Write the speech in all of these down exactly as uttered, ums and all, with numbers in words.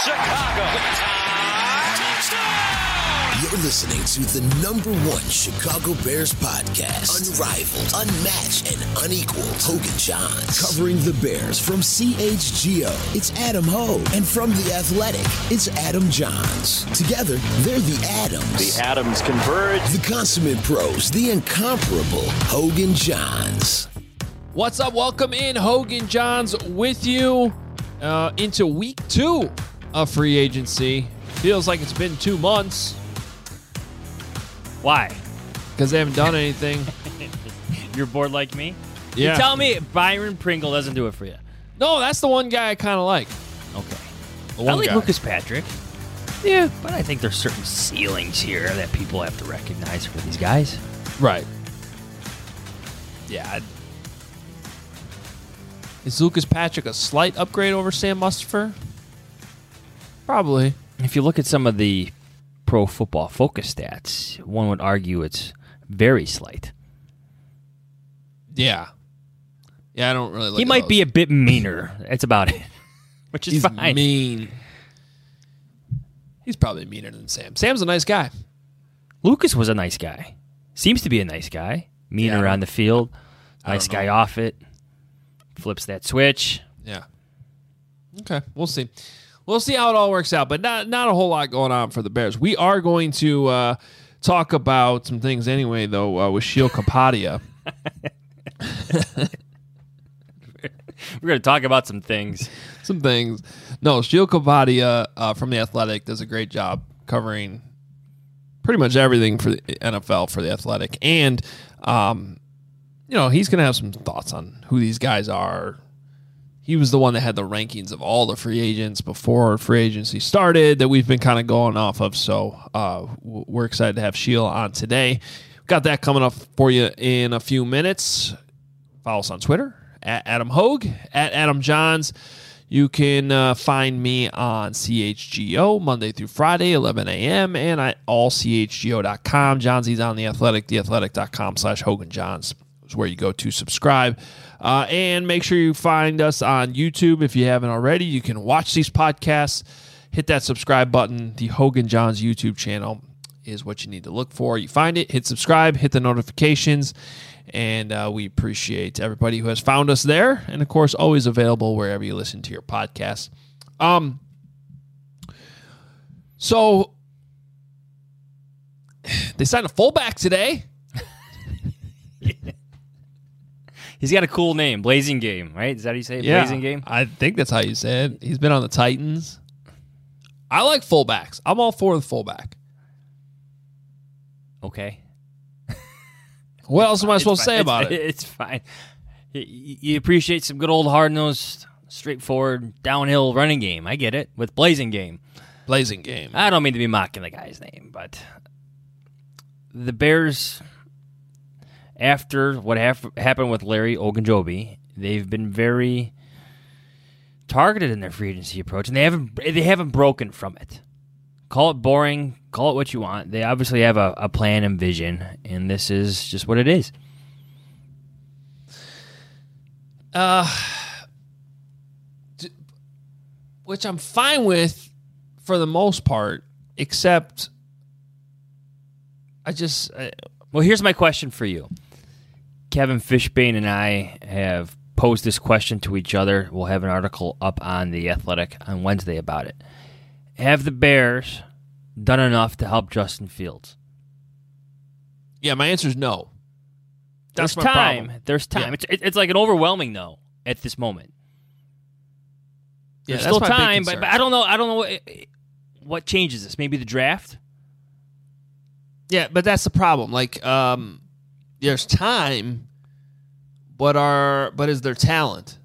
Chicago. You're listening to the number one Chicago Bears podcast. Unrivaled, unmatched, and unequaled. Hogan Johns. Covering the Bears from C H G O, it's Adam Hogue. And from The Athletic, it's Adam Johns. Together, they're the Adams. The Adams converge. The consummate pros, the incomparable Hogan Johns. What's up? Welcome in. Hogan Johns with you uh, into week two of free agency. Feels like it's been two months. Why? Because they haven't done anything. You're bored like me? Yeah. You tell me Byron Pringle doesn't do it for you. No, that's the one guy I kind of like. Okay. The one I like guy. Lucas Patrick. Yeah, but I think there's certain ceilings here that people have to recognize for these guys. Right. Yeah. I'd... Is Lucas Patrick a slight upgrade over Sam Mustipher? Probably. If you look at some of the Pro Football Focus stats, one would argue it's very slight. Yeah. Yeah, I don't really look He at might those. be a bit meaner. That's about it. Which is He's fine. mean. He's probably meaner than Sam. Sam's a nice guy. Lucas was a nice guy. Seems to be a nice guy. Meaner Yeah, on the field. I Nice don't guy know. off it. Flips that switch. Yeah. Okay, we'll see. We'll see how it all works out, but not not a whole lot going on for the Bears. We are going to uh, talk about some things anyway, though, uh, with Sheil Kapadia. We're going to talk about some things. some things. No, Sheil Kapadia uh, from The Athletic does a great job covering pretty much everything for the N F L for The Athletic. And, um, you know, he's going to have some thoughts on who these guys are. He was the one that had the rankings of all the free agents before free agency started that we've been kind of going off of. So uh, we're excited to have Sheil on today. Got that coming up for you in a few minutes. Follow us on Twitter, at Adam Hogue, at Adam Johns. You can uh, find me on C H G O Monday through Friday, eleven a.m. and at all c h g o dot com. Johnsy's on The Athletic, the athletic dot com slash Hogan Johns is where you go to subscribe. Uh, and make sure you find us on YouTube if you haven't already. You can watch these podcasts. Hit that subscribe button. The Hogan Johns YouTube channel is what you need to look for. You find it, hit subscribe, hit the notifications, and uh, we appreciate everybody who has found us there. And, of course, always available wherever you listen to your podcasts. Um, so they signed a fullback today. He's got a cool name, Blazing Game, right? Is that how you say it? Blazing Game? I think that's how you say it. He's been on the Titans. I like fullbacks. I'm all for the fullback. Okay. What else am I It's supposed to fine. say about It's- it? It's fine. You you appreciate some good old hard-nosed, straightforward, downhill running game. I get it. With Blazing Game. Blazing game. I don't mean to be mocking the guy's name, but the Bears, after what haf- happened with Larry Ogunjobi, they've been very targeted in their free agency approach, and they haven't they haven't broken from it. Call it boring, call it what you want. They obviously have a, a plan and vision, and this is just what it is. Uh, d- which I'm fine with for the most part, except I just... I, Well, here's my question for you. Kevin Fishbane and I have posed this question to each other. We'll have an article up on The Athletic on Wednesday about it. Have the Bears done enough to help Justin Fields? yeah, my answer is no. That's There's my time. problem. There's time. Yeah. It's, it- it's like an overwhelming no at this moment. Yeah, There's that's still my big time, but, concern. but I don't know. I don't know what, what changes this. Maybe the draft. Yeah, but that's the problem. Like, um, there's time, but are but is there talent?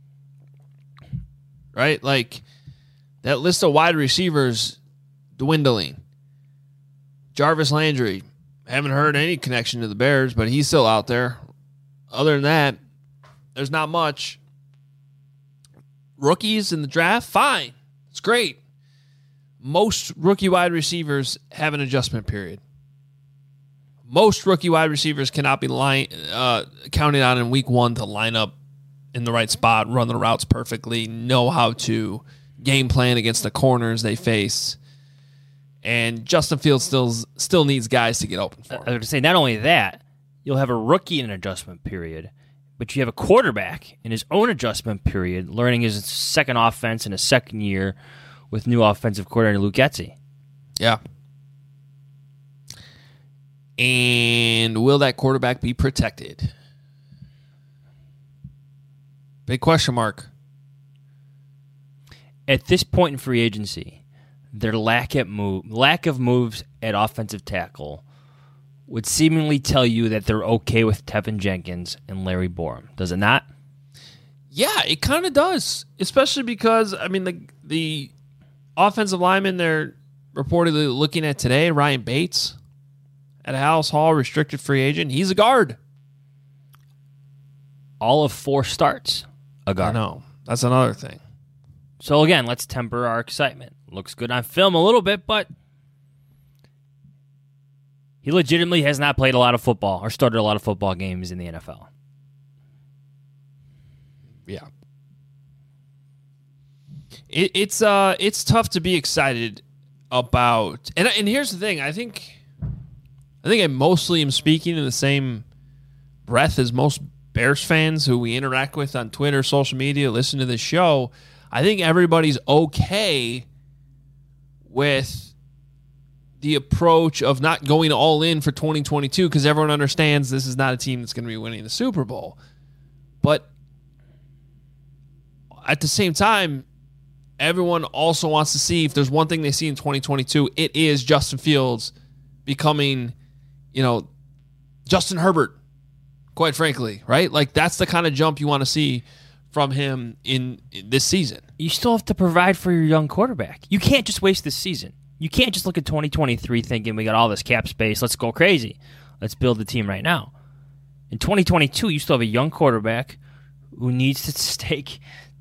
Right? Like that list of wide receivers dwindling. Jarvis Landry, haven't heard any connection to the Bears, but he's still out there. Other than that, there's not much. Rookies in the draft, fine. It's great. Most rookie wide receivers have an adjustment period. Most rookie wide receivers cannot be line, uh, counted on in week one to line up in the right spot, run the routes perfectly, know how to game plan against the corners they face. And Justin Fields still still needs guys to get open for him. I was going to say, not only that, you'll have a rookie in an adjustment period, but you have a quarterback in his own adjustment period, learning his second offense in a second year with new offensive coordinator Luke Getsy. Yeah. And will that quarterback be protected? Big question mark. At this point in free agency, their lack at move, lack of moves at offensive tackle would seemingly tell you that they're okay with Tevin Jenkins and Larry Borom. Does it not? Yeah, it kind of does. Especially because, I mean, the the offensive lineman they're reportedly looking at today, Ryan Bates, at House Hall, restricted free agent. He's a guard. All of four starts, a guard. I know. That's another thing. So again, let's temper our excitement. Looks good on film a little bit, but he legitimately has not played a lot of football or started a lot of football games in the N F L. Yeah. It, it's uh it's tough to be excited about, and and here's the thing. I think I think I mostly am speaking in the same breath as most Bears fans who we interact with on Twitter, social media, listen to this show. I think everybody's okay with the approach of not going all in for twenty twenty-two because everyone understands this is not a team that's going to be winning the Super Bowl. But at the same time, everyone also wants to see if there's one thing they see in twenty twenty-two, it is Justin Fields becoming, you know, Justin Herbert, quite frankly, right? Like, that's the kind of jump you want to see from him in, in this season. You still have to provide for your young quarterback. You can't just waste this season. You can't just look at twenty twenty-three thinking we got all this cap space, let's go crazy. Let's build the team right now. In twenty twenty-two, you still have a young quarterback who needs to take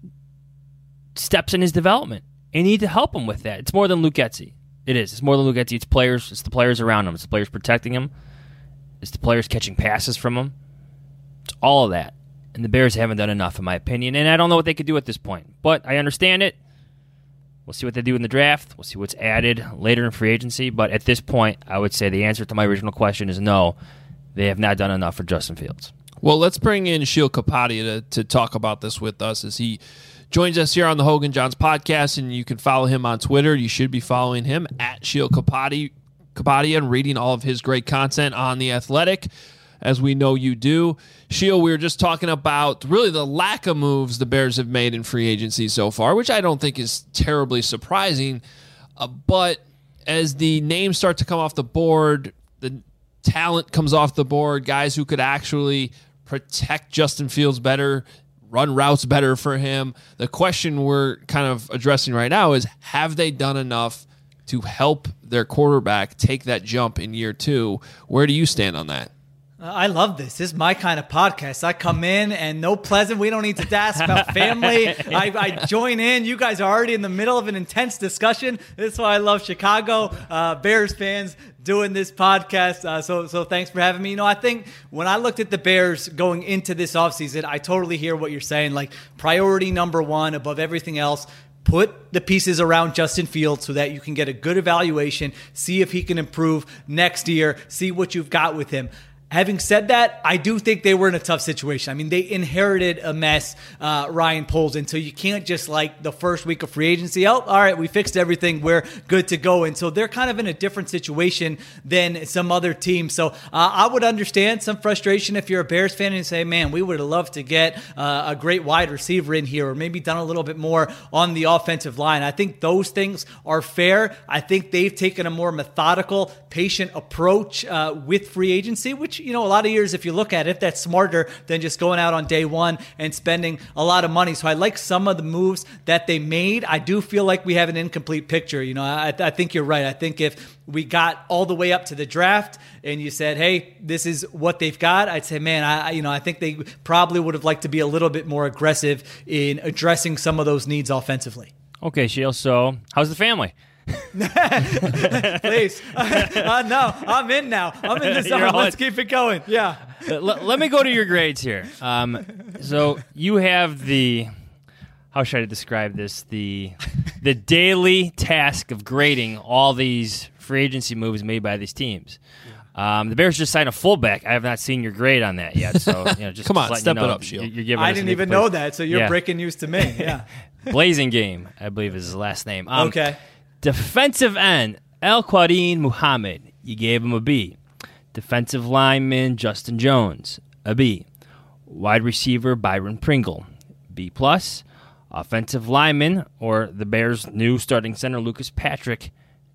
steps in his development. And you need to help him with that. It's more than Luke Getsy. It is. It's more than Luke Getsy. It's players. It's the players around him. It's the players protecting him. It's the players catching passes from him. It's all of that. And the Bears haven't done enough, in my opinion. And I don't know what they could do at this point. But I understand it. We'll see what they do in the draft. We'll see what's added later in free agency. But at this point, I would say the answer to my original question is no. They have not done enough for Justin Fields. Well, let's bring in Sheil Kapadia to, to talk about this with us as he joins us here on the Hogan Johns podcast. And you can follow him on Twitter. You should be following him at Sheil Kapadia, Kapadia and reading all of his great content on The Athletic, as we know you do. Sheil, we were just talking about really the lack of moves the Bears have made in free agency so far, which I don't think is terribly surprising. Uh, but as the names start to come off the board, the talent comes off the board, guys who could actually protect Justin Fields better, run routes better for him. The question we're kind of addressing right now is, have they done enough to help their quarterback take that jump in year two? Where do you stand on that? I love this. This is my kind of podcast. I come in and no pleasant. We don't need to ask about family. I, I join in. You guys are already in the middle of an intense discussion. This is why I love Chicago uh, Bears fans doing this podcast. Uh, so so thanks for having me. You know, I think when I looked at the Bears going into this offseason, I totally hear what you're saying. Like, priority number one above everything else, put the pieces around Justin Fields so that you can get a good evaluation, see if he can improve next year, see what you've got with him. Having said that, I do think they were in a tough situation. I mean, they inherited a mess, uh, Ryan Poles, and so you can't just, like, the first week of free agency, oh, all right, we fixed everything, we're good to go. And so they're kind of in a different situation than some other teams. So uh, I would understand some frustration if you're a Bears fan and say, man, we would have loved to get uh, a great wide receiver in here, or maybe done a little bit more on the offensive line. I think those things are fair. I think they've taken a more methodical, patient approach uh, with free agency, which, you know, a lot of years, if you look at it, that's smarter than just going out on day one and spending a lot of money. So I like some of the moves that they made. I do feel like we have an incomplete picture. You know, I, I think you're right. I think if we got all the way up to the draft and you said, hey, this is what they've got, I'd say, man, I, you know, I think they probably would have liked to be a little bit more aggressive in addressing some of those needs offensively. Okay, Sheil, so how's the family? Please. uh, no, I'm in now. I'm in the zone. Let's keep it going. Yeah. Let, let me go to your grades here. Um, so you have the how should I describe this? The the daily task of grading all these free agency moves made by these teams. Um, the Bears just signed a fullback. I have not seen your grade on that yet. So you know, just come on, just step you know, it up, Shield. You're, you're I didn't even know that, so you're yeah. breaking news to me. Yeah, Blazing Game, I believe is his last name. Um, okay. Defensive end El Quadin Muhammad, you gave him a B. Defensive lineman Justin Jones, a B. Wide receiver Byron Pringle, B plus. Offensive lineman, or the Bears' new starting center Lucas Patrick,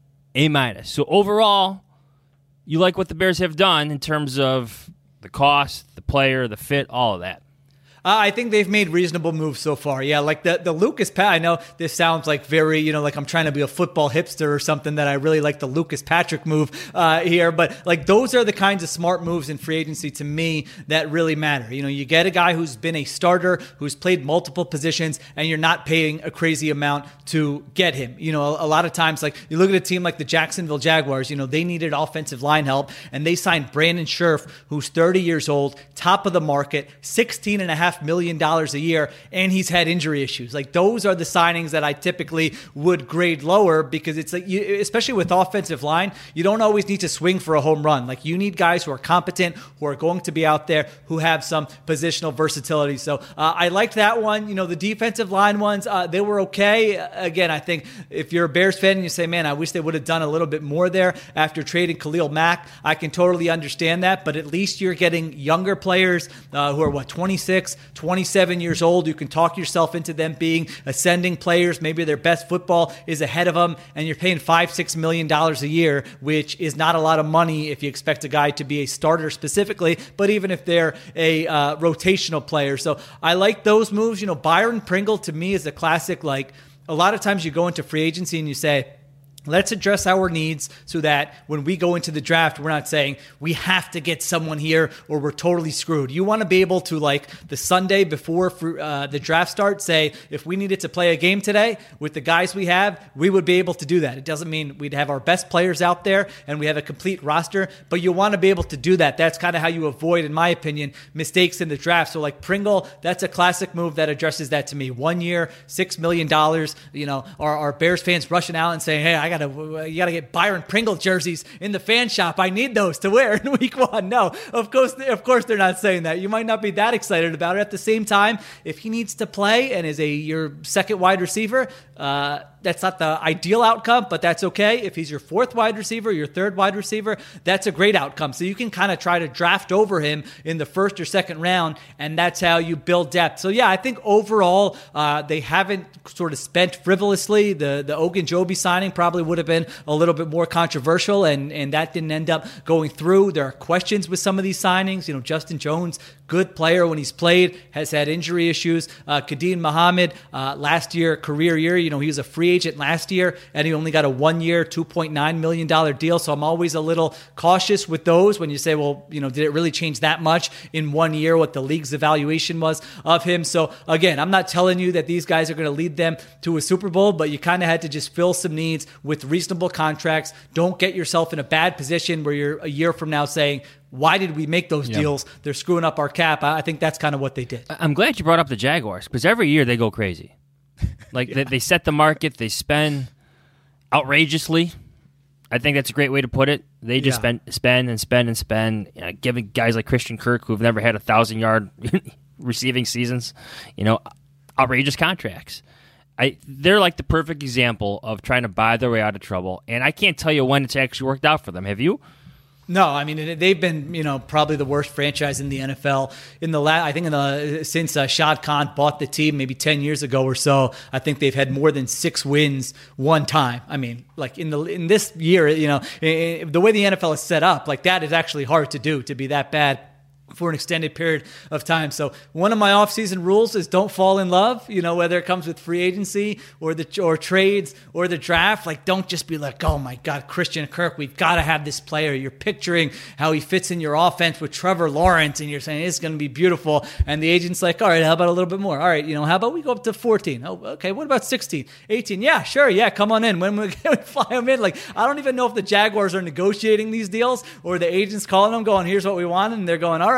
A minus. So overall, you like what the Bears have done in terms of the cost, the player, the fit, all of that. Uh, I think they've made reasonable moves so far. Yeah, like the, the Lucas Pat. I know this sounds like very, you know, like I'm trying to be a football hipster or something, that I really like the Lucas Patrick move uh, here. But like those are the kinds of smart moves in free agency to me that really matter. You know, you get a guy who's been a starter, who's played multiple positions, and you're not paying a crazy amount to get him. You know, a, a lot of times, like you look at a team like the Jacksonville Jaguars, you know, they needed offensive line help, and they signed Brandon Scherf, who's thirty years old, top of the market, sixteen and a half million dollars a year, and he's had injury issues. Like those are the signings that I typically would grade lower, because it's like, you, especially with offensive line, you don't always need to swing for a home run. Like you need guys who are competent, who are going to be out there, who have some positional versatility. So uh, I liked that one. You know, the defensive line ones, uh, they were okay. Again, I think if you're a Bears fan and you say, man, I wish they would have done a little bit more there after trading Khalil Mack, I can totally understand that. But at least you're getting younger players uh, who are what, twenty-six, twenty-seven years old. You can talk yourself into them being ascending players. Maybe their best football is ahead of them, and you're paying five, six million dollars a year, which is not a lot of money if you expect a guy to be a starter specifically, but even if they're a uh, rotational player. So I like those moves. You know, Byron Pringle to me is a classic. Like a lot of times you go into free agency and you say, let's address our needs so that when we go into the draft, we're not saying we have to get someone here or we're totally screwed. You want to be able to, like the Sunday before uh, the draft starts, say, if we needed to play a game today with the guys we have, we would be able to do that. It doesn't mean we'd have our best players out there and we have a complete roster, but you want to be able to do that. That's kind of how you avoid, in my opinion, mistakes in the draft. So like Pringle, that's a classic move that addresses that to me. One year, six million dollars. You know, our, our Bears fans rushing out and saying, hey, I got to you got to get Byron Pringle jerseys in the fan shop. I need those to wear in week one. No, of course, of course they're not saying that. You might not be that excited about it. At the same time, if he needs to play and is a your second wide receiver, uh, that's not the ideal outcome, but that's okay. If he's your fourth wide receiver, your third wide receiver, that's a great outcome. So you can kind of try to draft over him in the first or second round, and that's how you build depth. So yeah, I think overall uh, they haven't sort of spent frivolously. The the Ogunjobi signing probably would have been a little bit more controversial, and, and that didn't end up going through. There are questions with some of these signings. You know, Justin Jones, good player when he's played, has had injury issues. Uh, Quadin Muhammad, uh, last year, career year, you know, he was a free agent last year, and he only got a one-year, two point nine million dollars deal. So I'm always a little cautious with those when you say, well, you know, did it really change that much in one year, what the league's evaluation was of him? So again, I'm not telling you that these guys are going to lead them to a Super Bowl, but you kind of had to just fill some needs with reasonable contracts. Don't get yourself in a bad position where you're a year from now saying, why did we make those yep. deals? They're screwing up our cap. I think that's kind of what they did. I'm glad you brought up the Jaguars, because every year they go crazy. Like yeah. they, they set the market, they spend outrageously. I think that's a great way to put it. They just yeah. spend, spend and spend and spend, you know, giving guys like Christian Kirk, who've never had a thousand-yard receiving seasons, you know, outrageous contracts. I They're like the perfect example of trying to buy their way out of trouble, and I can't tell you when it's actually worked out for them. Have you? No, I mean they've been, you know, probably the worst franchise in the N F L in the last. I think in the since uh, Shad Khan bought the team maybe ten years ago or so. I think they've had more than six wins one time. I mean, like in the in this year, you know, the way the N F L is set up, like that is actually hard to do, to be that bad for an extended period of time. So one of my off-season rules is don't fall in love, you know, whether it comes with free agency or the or trades or the draft. Like, don't just be like, oh my God, Christian Kirk, we've got to have this player. You're picturing how he fits in your offense with Trevor Lawrence, and you're saying it's going to be beautiful. And the agent's like, all right, how about a little bit more? All right, you know, how about we go up to fourteen? Oh, okay, what about sixteen, eighteen? Yeah, sure, yeah, come on in. When we fly them in, like, I don't even know if the Jaguars are negotiating these deals or the agent's calling them going, here's what we want, and they're going, all right,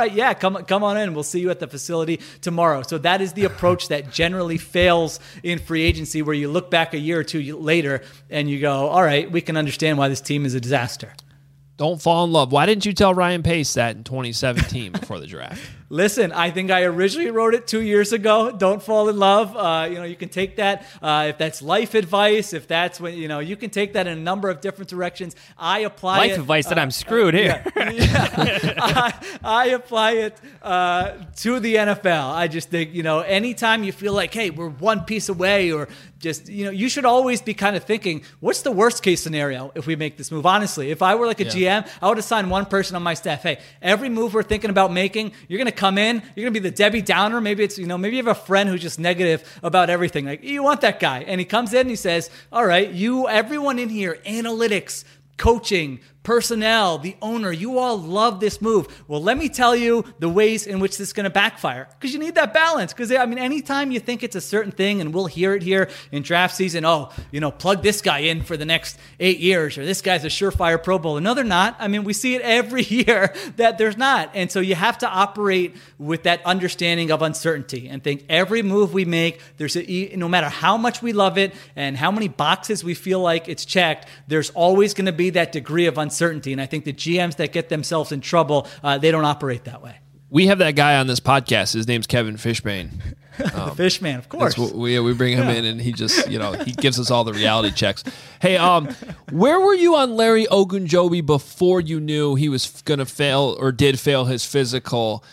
right, yeah, come come on in. We'll see you at the facility tomorrow. So that is the approach that generally fails in free agency, where you look back a year or two later and you go, all right, we can understand why this team is a disaster. Don't fall in love. Why didn't you tell Ryan Pace that in twenty seventeen before the draft? Listen, I think I originally wrote it two years ago. Don't fall in love. Uh, you know, you can take that uh, if that's life advice. If that's when you know, you can take that in a number of different directions. I apply life it, advice that uh, I'm screwed uh, here. Yeah, yeah. I, I apply it uh, to the N F L. I just think you know, anytime you feel like, hey, we're one piece away, or just you know, you should always be kind of thinking, what's the worst case scenario if we make this move? Honestly, if I were like a yeah. G M, I would assign one person on my staff. Hey, every move we're thinking about making, you're going to come in, you're going to be the Debbie Downer. Maybe it's, you know, maybe you have a friend who's just negative about everything. Like, you want that guy. And he comes in and he says, all right, you, everyone in here, analytics, coaching, personnel, the owner, you all love this move. Well, let me tell you the ways in which this is going to backfire, because you need that balance. Because, I mean, anytime you think it's a certain thing, and we'll hear it here in draft season, oh, you know, plug this guy in for the next eight years, or this guy's a surefire Pro Bowler. No, they're not. I mean, we see it every year that there's not. And so you have to operate with that understanding of uncertainty and think every move we make, there's a, no matter how much we love it and how many boxes we feel like it's checked, there's always going to be that degree of uncertainty. Uncertainty. And I think the G Ms that get themselves in trouble, uh, they don't operate that way. We have that guy on this podcast. His name's Kevin Fishbane. Um, the Fishman, of course. What we we bring him yeah. in, and he just you know he gives us all the reality checks. Hey, um, where were you on Larry Ogunjobi before you knew he was going to fail or did fail his physical?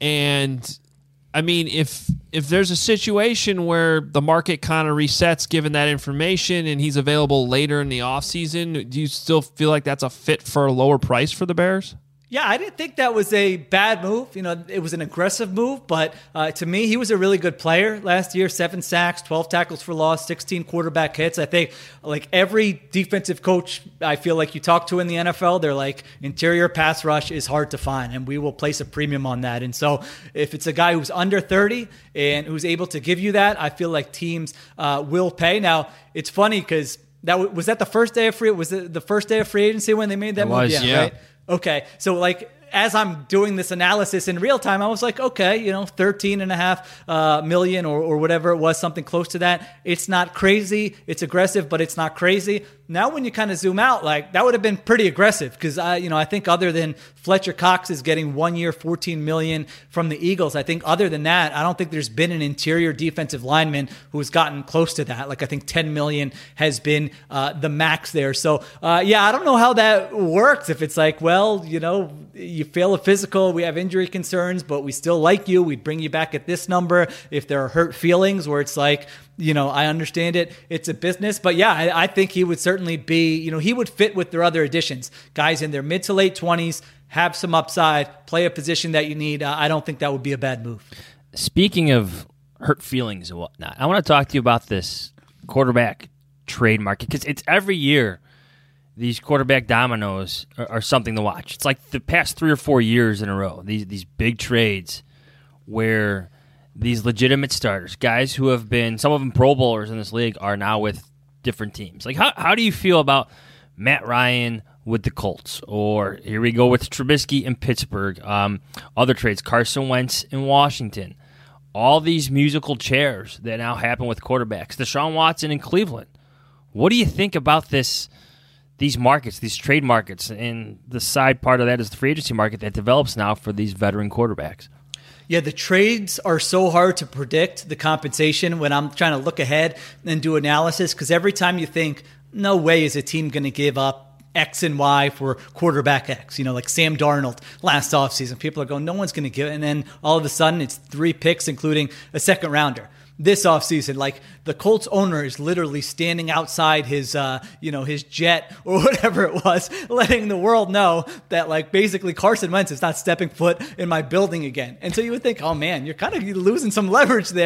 And I mean, if if there's a situation where the market kind of resets given that information and he's available later in the offseason, do you still feel like that's a fit for a lower price for the Bears? Yeah, I didn't think that was a bad move. You know, it was an aggressive move, but uh, to me, he was a really good player last year. Seven sacks, twelve tackles for loss, sixteen quarterback hits. I think like every defensive coach I feel like you talk to in the N F L, they're like, interior pass rush is hard to find, and we will place a premium on that. And so if it's a guy who's under thirty and who's able to give you that, I feel like teams uh, will pay. Now, it's funny because that was that the first day of free. Was it the first day of free agency when they made that it move? Was, yeah, yeah. Right? Okay, so like as I'm doing this analysis in real time, I was like, okay, you know, thirteen and a half uh, million or, or whatever it was, something close to that. It's not crazy. It's aggressive, but it's not crazy. Now, when you kind of zoom out, like that would have been pretty aggressive because I, you know, I think other than Fletcher Cox is getting one year, fourteen million from the Eagles. I think other than that, I don't think there's been an interior defensive lineman who's gotten close to that. Like I think ten million has been uh, the max there. So uh, yeah, I don't know how that works. If it's like, well, you know, you fail a physical, we have injury concerns, but we still like you. We'd bring you back at this number. If there are hurt feelings where it's like, you know, I understand it. It's a business. But yeah, I, I think he would certainly be, you know, he would fit with their other additions. Guys in their mid to late twenties, have some upside, play a position that you need. Uh, I don't think that would be a bad move. Speaking of hurt feelings and whatnot, I want to talk to you about this quarterback trade market because it's every year these quarterback dominoes are, are something to watch. It's like the past three or four years in a row, these these big trades where these legitimate starters, guys who have been, some of them Pro Bowlers in this league, are now with different teams. Like, how how do you feel about Matt Ryan with the Colts? Or here we go with Trubisky in Pittsburgh. Um, other trades, Carson Wentz in Washington. All these musical chairs that now happen with quarterbacks. Deshaun Watson in Cleveland. What do you think about this? These markets, these trade markets, and the side part of that is the free agency market that develops now for these veteran quarterbacks. Yeah, the trades are so hard to predict, the compensation, when I'm trying to look ahead and do analysis, because every time you think, no way is a team going to give up X and Y for quarterback X, you know, like Sam Darnold last offseason. People are going, no one's going to give it. And then all of a sudden it's three picks, including a second rounder. This offseason, like the Colts owner is literally standing outside his, uh, you know, his jet or whatever it was, letting the world know that like basically Carson Wentz is not stepping foot in my building again. And so you would think, oh man, you're kind of losing some leverage there.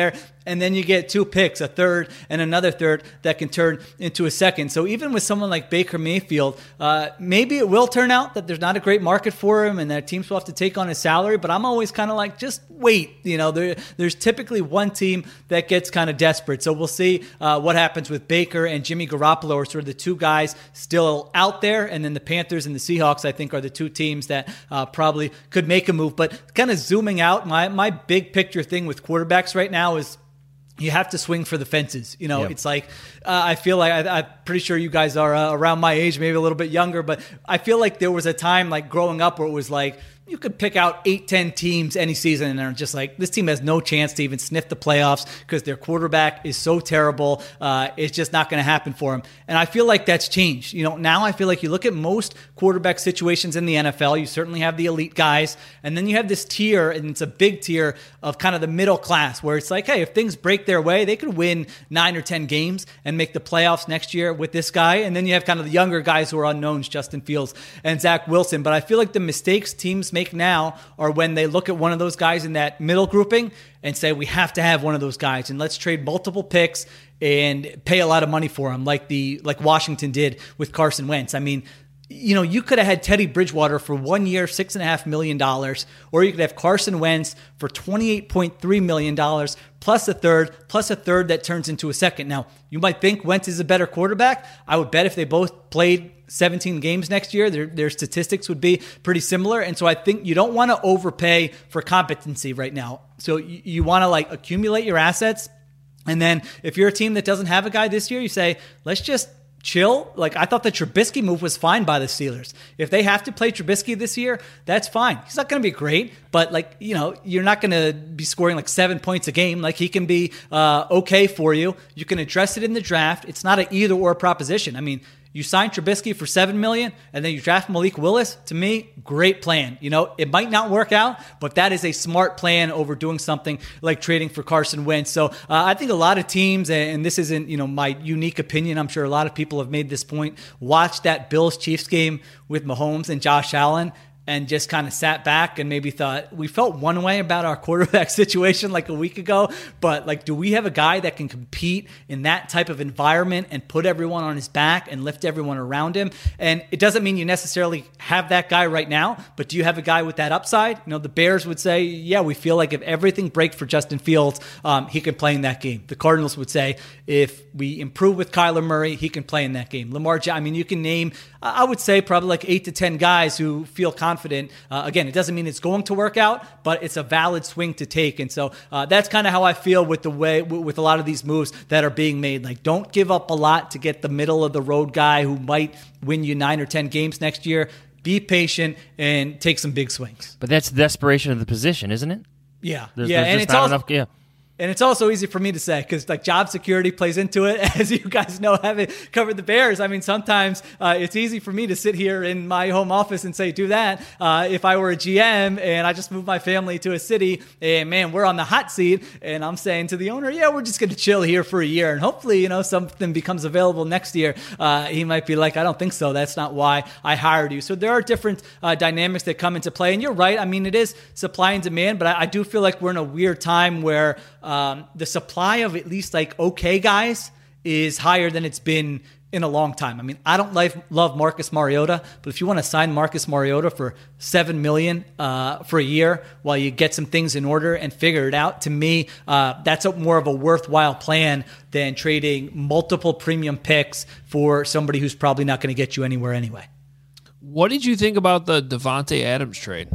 And then you get two picks, a third and another third that can turn into a second. So even with someone like Baker Mayfield, uh, maybe it will turn out that there's not a great market for him and that teams will have to take on his salary. But I'm always kind of like, just wait. You know, there, there's typically one team that gets kind of desperate. So we'll see uh, what happens with Baker and Jimmy Garoppolo are sort of the two guys still out there. And then the Panthers and the Seahawks, I think, are the two teams that uh, probably could make a move. But kind of zooming out, my, my big picture thing with quarterbacks right now is you have to swing for the fences. You know, yep. It's like, uh, I feel like, I, I'm pretty sure you guys are uh, around my age, maybe a little bit younger, but I feel like there was a time like growing up where it was like, you could pick out eight, ten teams any season and they're just like, this team has no chance to even sniff the playoffs because their quarterback is so terrible. Uh, it's just not going to happen for him. And I feel like that's changed. You know, now I feel like you look at most quarterback situations in the N F L, you certainly have the elite guys, and then you have this tier, and it's a big tier of kind of the middle class where it's like, hey, if things break their way, they could win nine or ten games and make the playoffs next year with this guy. And then you have kind of the younger guys who are unknowns, Justin Fields and Zach Wilson. But I feel like the mistakes teams make now are when they look at one of those guys in that middle grouping and say, we have to have one of those guys and let's trade multiple picks and pay a lot of money for him, like the like Washington did with Carson Wentz. I mean, you know, you could have had Teddy Bridgewater for one year, six and a half million dollars, or you could have Carson Wentz for twenty-eight point three million dollars plus a third, plus a third that turns into a second. Now, you might think Wentz is a better quarterback. I would bet if they both played seventeen games next year, their, their statistics would be pretty similar. And so I think you don't want to overpay for competency right now. So you, you want to like accumulate your assets. And then if you're a team that doesn't have a guy this year, you say, let's just chill. Like, I thought the Trubisky move was fine by the Steelers. If they have to play Trubisky this year, that's fine. He's not going to be great, but like, you know, you're not going to be scoring like seven points a game. Like, he can be uh, okay for you. You can address it in the draft. It's not an either or proposition. I mean, you sign Trubisky for seven million dollars and then you draft Malik Willis. To me, great plan. You know, it might not work out, but that is a smart plan over doing something like trading for Carson Wentz. So uh, I think a lot of teams, and this isn't, you know, my unique opinion, I'm sure a lot of people have made this point, watch that Bills-Chiefs game with Mahomes and Josh Allen and just kind of sat back and maybe thought, we felt one way about our quarterback situation like a week ago, but like, do we have a guy that can compete in that type of environment and put everyone on his back and lift everyone around him? And it doesn't mean you necessarily have that guy right now, but do you have a guy with that upside? You know, the Bears would say, yeah, we feel like if everything breaks for Justin Fields, um, he can play in that game. The Cardinals would say, if we improve with Kyler Murray, he can play in that game. Lamar, I mean, you can name, I would say probably like eight to ten guys who feel confident. Confident. Uh, again, it doesn't mean it's going to work out, but it's a valid swing to take. And so uh, that's kind of how I feel with the way with a lot of these moves that are being made. Like, don't give up a lot to get the middle of the road guy who might win you nine or ten games next year. Be patient and take some big swings. But that's the desperation of the position, isn't it? Yeah, there's, yeah, there's and it's not also enough, yeah. And it's also easy for me to say because like job security plays into it, as you guys know, having covered the Bears. I mean, sometimes uh, it's easy for me to sit here in my home office and say, do that. Uh, if I were a G M and I just moved my family to a city and man, we're on the hot seat and I'm saying to the owner, yeah, we're just going to chill here for a year. And hopefully, you know, something becomes available next year. Uh, he might be like, I don't think so. That's not why I hired you. So there are different uh, dynamics that come into play. And you're right. I mean, it is supply and demand, but I, I do feel like we're in a weird time where Um, the supply of at least like okay guys is higher than it's been in a long time. I mean, I don't like, love Marcus Mariota, but if you want to sign Marcus Mariota for seven million dollars uh, for a year while you get some things in order and figure it out, to me, uh, that's a, more of a worthwhile plan than trading multiple premium picks for somebody who's probably not going to get you anywhere anyway. What did you think about the Davante Adams trade?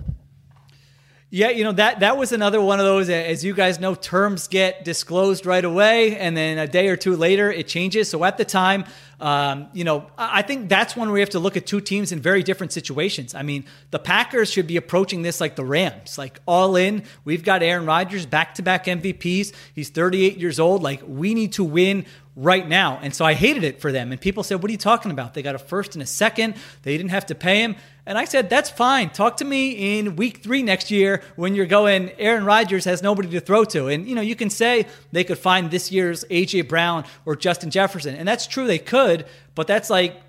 Yeah, you know, that that was another one of those, as you guys know, terms get disclosed right away, and then a day or two later, it changes. So at the time, um, you know, I think that's one where we have to look at two teams in very different situations. I mean, the Packers should be approaching this like the Rams, like all in. We've got Aaron Rodgers, back-to-back M V Ps. He's thirty-eight years old. Like, we need to win right now. And so I hated it for them. And people said, what are you talking about? They got a first and a second. They didn't have to pay him. And I said, that's fine. Talk to me in week three next year when you're going, Aaron Rodgers has nobody to throw to. And, you know, you can say they could find this year's A J Brown or Justin Jefferson. And that's true, they could, but that's like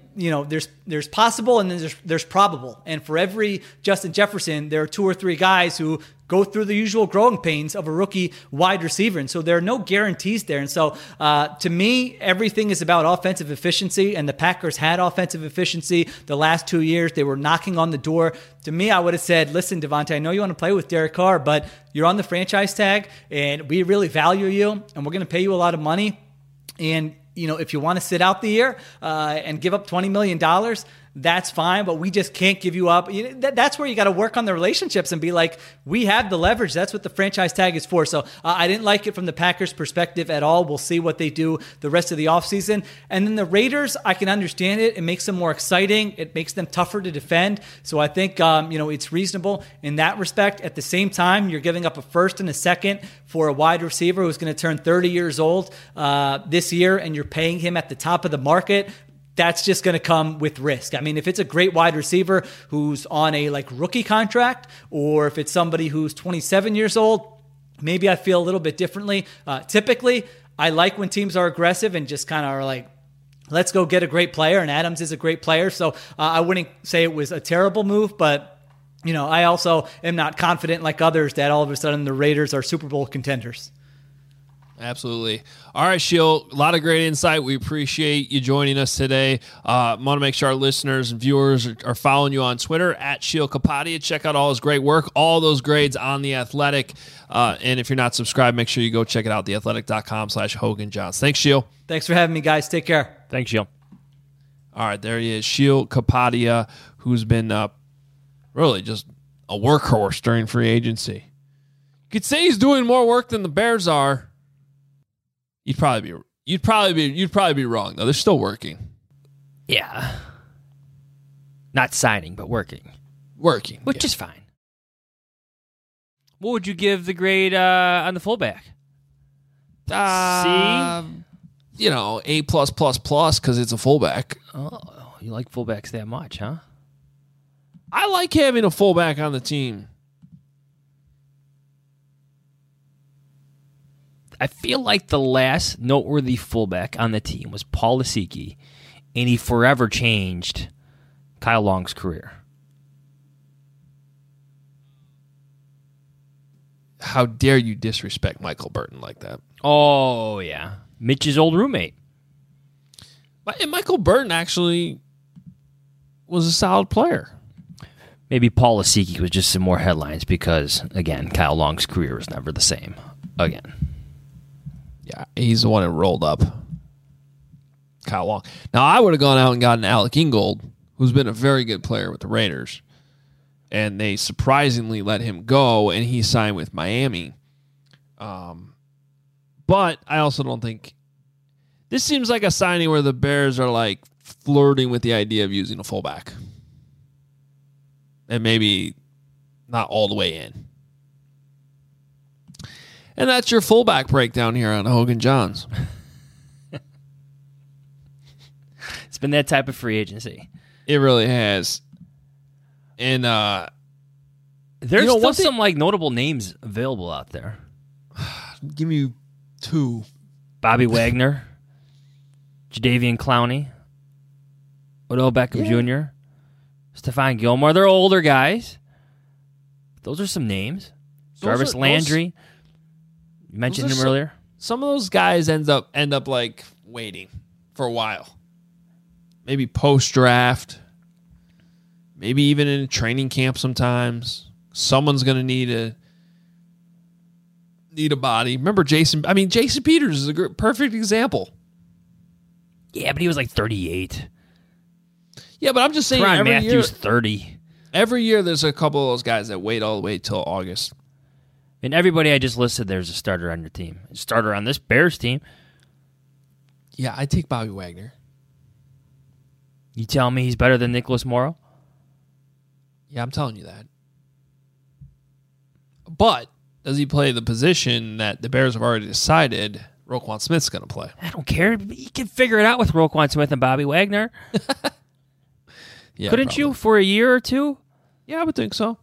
you know, there's there's possible and then there's there's probable. And for every Justin Jefferson, there are two or three guys who go through the usual growing pains of a rookie wide receiver. And so there are no guarantees there. And so uh, to me, everything is about offensive efficiency, and the Packers had offensive efficiency the last two years. They were knocking on the door. To me, I would have said, listen, Devontae, I know you want to play with Derek Carr, but you're on the franchise tag and we really value you and we're going to pay you a lot of money. And you know, if you want to sit out the year uh, and give up twenty million dollars, that's fine, but we just can't give you up. You know, that, that's where you got to work on the relationships and be like, we have the leverage. That's what the franchise tag is for. So uh, I didn't like it from the Packers' perspective at all. We'll see what they do the rest of the offseason. And then the Raiders, I can understand it. It makes them more exciting. It makes them tougher to defend. So I think, um, you know, it's reasonable in that respect. At the same time, you're giving up a first and a second for a wide receiver who's going to turn thirty years old uh, this year, and you're paying him at the top of the market. That's just going to come with risk. I mean, if it's a great wide receiver who's on a like rookie contract, or if it's somebody who's twenty-seven years old, maybe I feel a little bit differently. Uh, typically, I like when teams are aggressive and just kind of are like, let's go get a great player. And Adams is a great player. So uh, I wouldn't say it was a terrible move, but you know, I also am not confident like others that all of a sudden the Raiders are Super Bowl contenders. Absolutely. All right, Sheil, a lot of great insight. We appreciate you joining us today. I uh, want to make sure our listeners and viewers are, are following you on Twitter, at Sheil Kapadia. Check out all his great work, all those grades on The Athletic. Uh, and if you're not subscribed, make sure you go check it out, theathletic.com slash Hogan Johns. Thanks, Sheil. Thanks for having me, guys. Take care. Thanks, Sheil. All right, there he is, Sheil Kapadia, who's been uh, really just a workhorse during free agency. You could say he's doing more work than the Bears are. You'd probably be you'd probably be you'd probably be wrong though. They're still working. Yeah. Not signing, but working. Working. Which yeah. is fine. What would you give the grade uh, on the fullback? Uh, C? You know, A plus plus plus because it's a fullback. Oh, you like fullbacks that much, huh? I like having a fullback on the team. I feel like the last noteworthy fullback on the team was Paul Asiki, and he forever changed Kyle Long's career. How dare you disrespect Michael Burton like that? Oh, yeah. Mitch's old roommate. And Michael Burton actually was a solid player. Maybe Paul Asiki was just some more headlines because, again, Kyle Long's career was never the same again. Yeah, he's the one that rolled up Kyle Long. Now, I would have gone out and gotten Alec Ingold, who's been a very good player with the Raiders, and they surprisingly let him go, and he signed with Miami. Um, but I also don't think this seems like a signing where the Bears are like flirting with the idea of using a fullback, and maybe not all the way in. And that's your fullback breakdown here on Hogan Johns. It's been that type of free agency. It really has. And uh, there's you know, still thing, some like notable names available out there. Give me two. Bobby Wagner, Jadeveon Clowney, Odell Beckham yeah. Junior, Stephon Gilmore. They're older guys. Those are some names. Those Jarvis are, Landry. Those, you mentioned him some, earlier. Some of those guys end up end up like waiting for a while. Maybe post draft. Maybe even in training camp sometimes. Someone's gonna need a need a body. Remember Jason? I mean, Jason Peters is a perfect example. Yeah, but he was like thirty-eight. Yeah, but I'm just saying. Ron every Matthews year, thirty. Every year, there's a couple of those guys that wait all the way till August. And everybody I just listed, there's a starter on your team. A starter on this Bears team. Yeah, I take Bobby Wagner. You tell me he's better than Nicholas Morrow? Yeah, I'm telling you that. But does he play the position that the Bears have already decided Roquan Smith's going to play? I don't care. You can figure it out with Roquan Smith and Bobby Wagner. yeah, Couldn't probably. you for a year or two? Yeah, I would think so.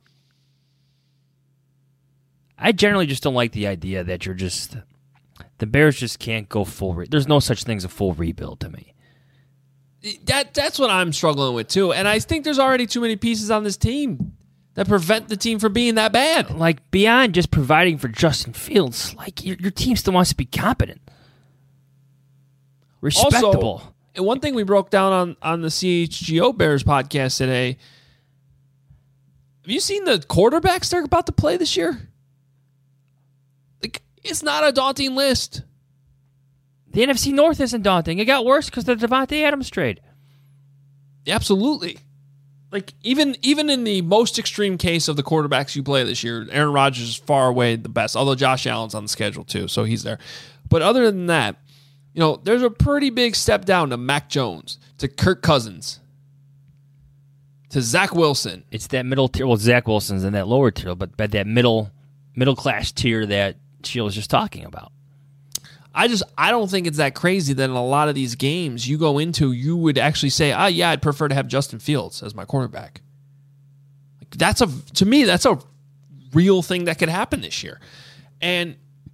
I generally just don't like the idea that you're just... The Bears just can't go full... Re- There's no such thing as a full rebuild to me. That that's what I'm struggling with too. And I think there's already too many pieces on this team that prevent the team from being that bad. Like, beyond just providing for Justin Fields, like, your, your team still wants to be competent. Respectable. Also, and one thing we broke down on, on the C H G O Bears podcast today, have you seen the quarterbacks they're about to play this year? Like, it's not a daunting list. The N F C North isn't daunting. It got worse because of the Devontae Adams trade. Absolutely. Like, even even in the most extreme case of the quarterbacks you play this year, Aaron Rodgers is far away the best, although Josh Allen's on the schedule too, so he's there. But other than that, you know, there's a pretty big step down to Mac Jones, to Kirk Cousins, to Zach Wilson. It's that middle tier. Well, Zach Wilson's in that lower tier, but, but that middle middle class tier that Sheila was just talking about. I just I don't think it's that crazy that in a lot of these games you go into, you would actually say, ah, yeah, I'd prefer to have Justin Fields as my quarterback. Like, that's a to me, that's a real thing that could happen this year. And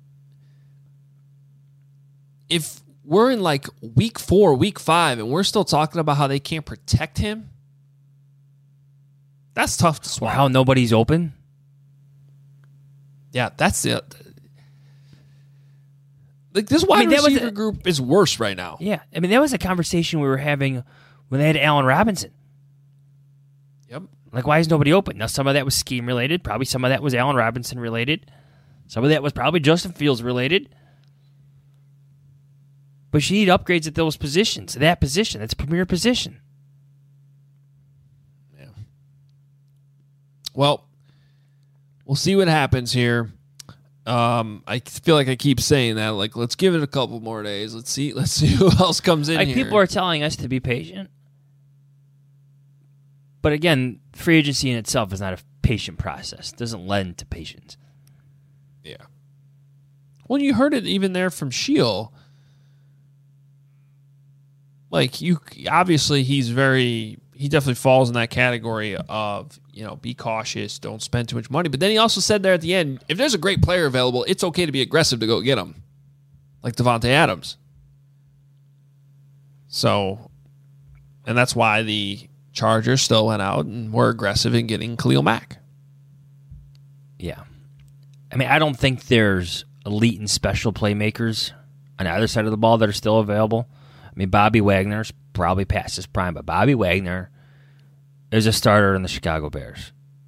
if we're in like week four, week five, and we're still talking about how they can't protect him, that's tough to swallow. Or how nobody's open. Yeah, that's it. Like, this wide I mean, that was receiver a- group is worse right now. Yeah, I mean, that was a conversation we were having when they had Allen Robinson. Yep. Like, why is nobody open? Now, some of that was scheme related. Probably some of that was Allen Robinson related. Some of that was probably Justin Fields related. But you need upgrades at those positions. That position, that's a premier position. Yeah. Well, we'll see what happens here. Um, I feel like I keep saying that. Like, let's give it a couple more days. Let's see. Let's see who else comes in Like, here. people are telling us to be patient. But again, free agency in itself is not a patient process. It doesn't lend to patience. Yeah. Well, you heard it even there from Sheil. Like, you obviously he's very he definitely falls in that category of, you know, be cautious, don't spend too much money. But then he also said there at the end, if there's a great player available, it's okay to be aggressive to go get him, like Devontae Adams. So, and that's why the Chargers still went out and were aggressive in getting Khalil Mack. Yeah. I mean, I don't think there's elite and special playmakers on either side of the ball that are still available. I mean, Bobby Wagner's probably past his prime, but Bobby Wagner is a starter in the Chicago Bears.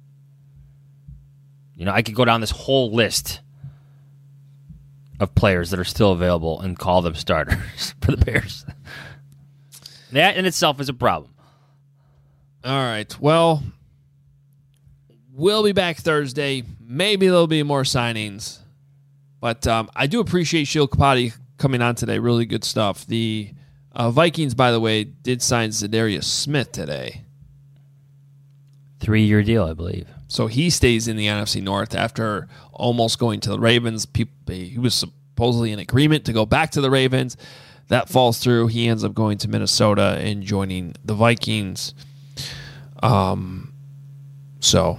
You know, I could go down this whole list of players that are still available and call them starters for the Bears. That in itself is a problem. All right. Well, we'll be back Thursday. Maybe there'll be more signings. But um, I do appreciate Sheil Kapati coming on today. Really good stuff. The uh, Vikings, by the way, did sign Zadarius Smith today. Three-year deal, I believe. So he stays in the N F C North after almost going to the Ravens. People, he was supposedly in agreement to go back to the Ravens. That falls through. He ends up going to Minnesota and joining the Vikings. Um, so,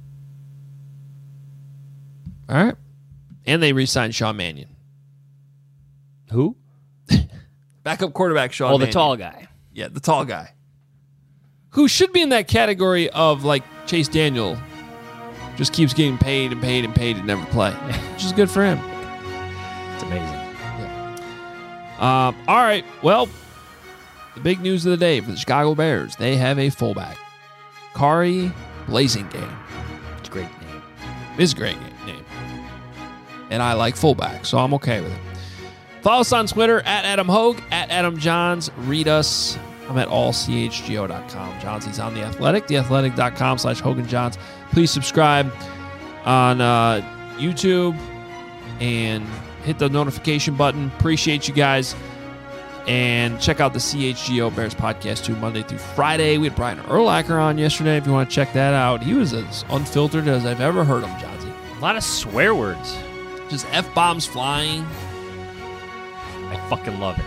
all right. And they re-signed Sean Mannion. Who? Backup quarterback Sean Oh, the Mannion. tall guy. Yeah, the tall guy. Who should be in that category of, like, Chase Daniel. Just keeps getting paid and paid and paid and never play. Which is good for him. It's amazing. Um, all right. Well, the big news of the day for the Chicago Bears, they have a fullback. Kari Blasingame. It's a great name. It's a great name. And I like fullback, so I'm okay with it. Follow us on Twitter, at Adam Hogue, at Adam Johns. Read us. I'm at all c h g o dot com. Johnsy's on The Athletic, theathletic.com slash Hogan Johns. Please subscribe on uh, YouTube and hit the notification button. Appreciate you guys. And check out the C H G O Bears podcast too, Monday through Friday. We had Brian Urlacher on yesterday. If you want to check that out, he was as unfiltered as I've ever heard him, Johnsy. A lot of swear words. Just F-bombs flying. I fucking love it.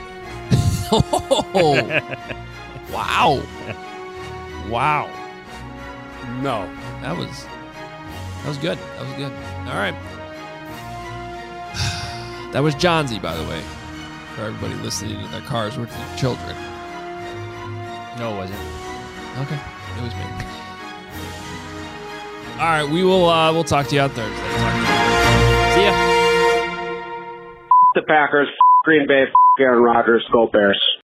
Oh, wow. Wow. No. That was that was good. That was good. All right. That was Johnsy, by the way, for everybody listening in their cars with their children. No, it wasn't. Okay, it was me. All right, we will. Uh, we'll talk to you on Thursday. Talk to you. See ya. The Packers, Green Bay, Aaron Rodgers, go Bears.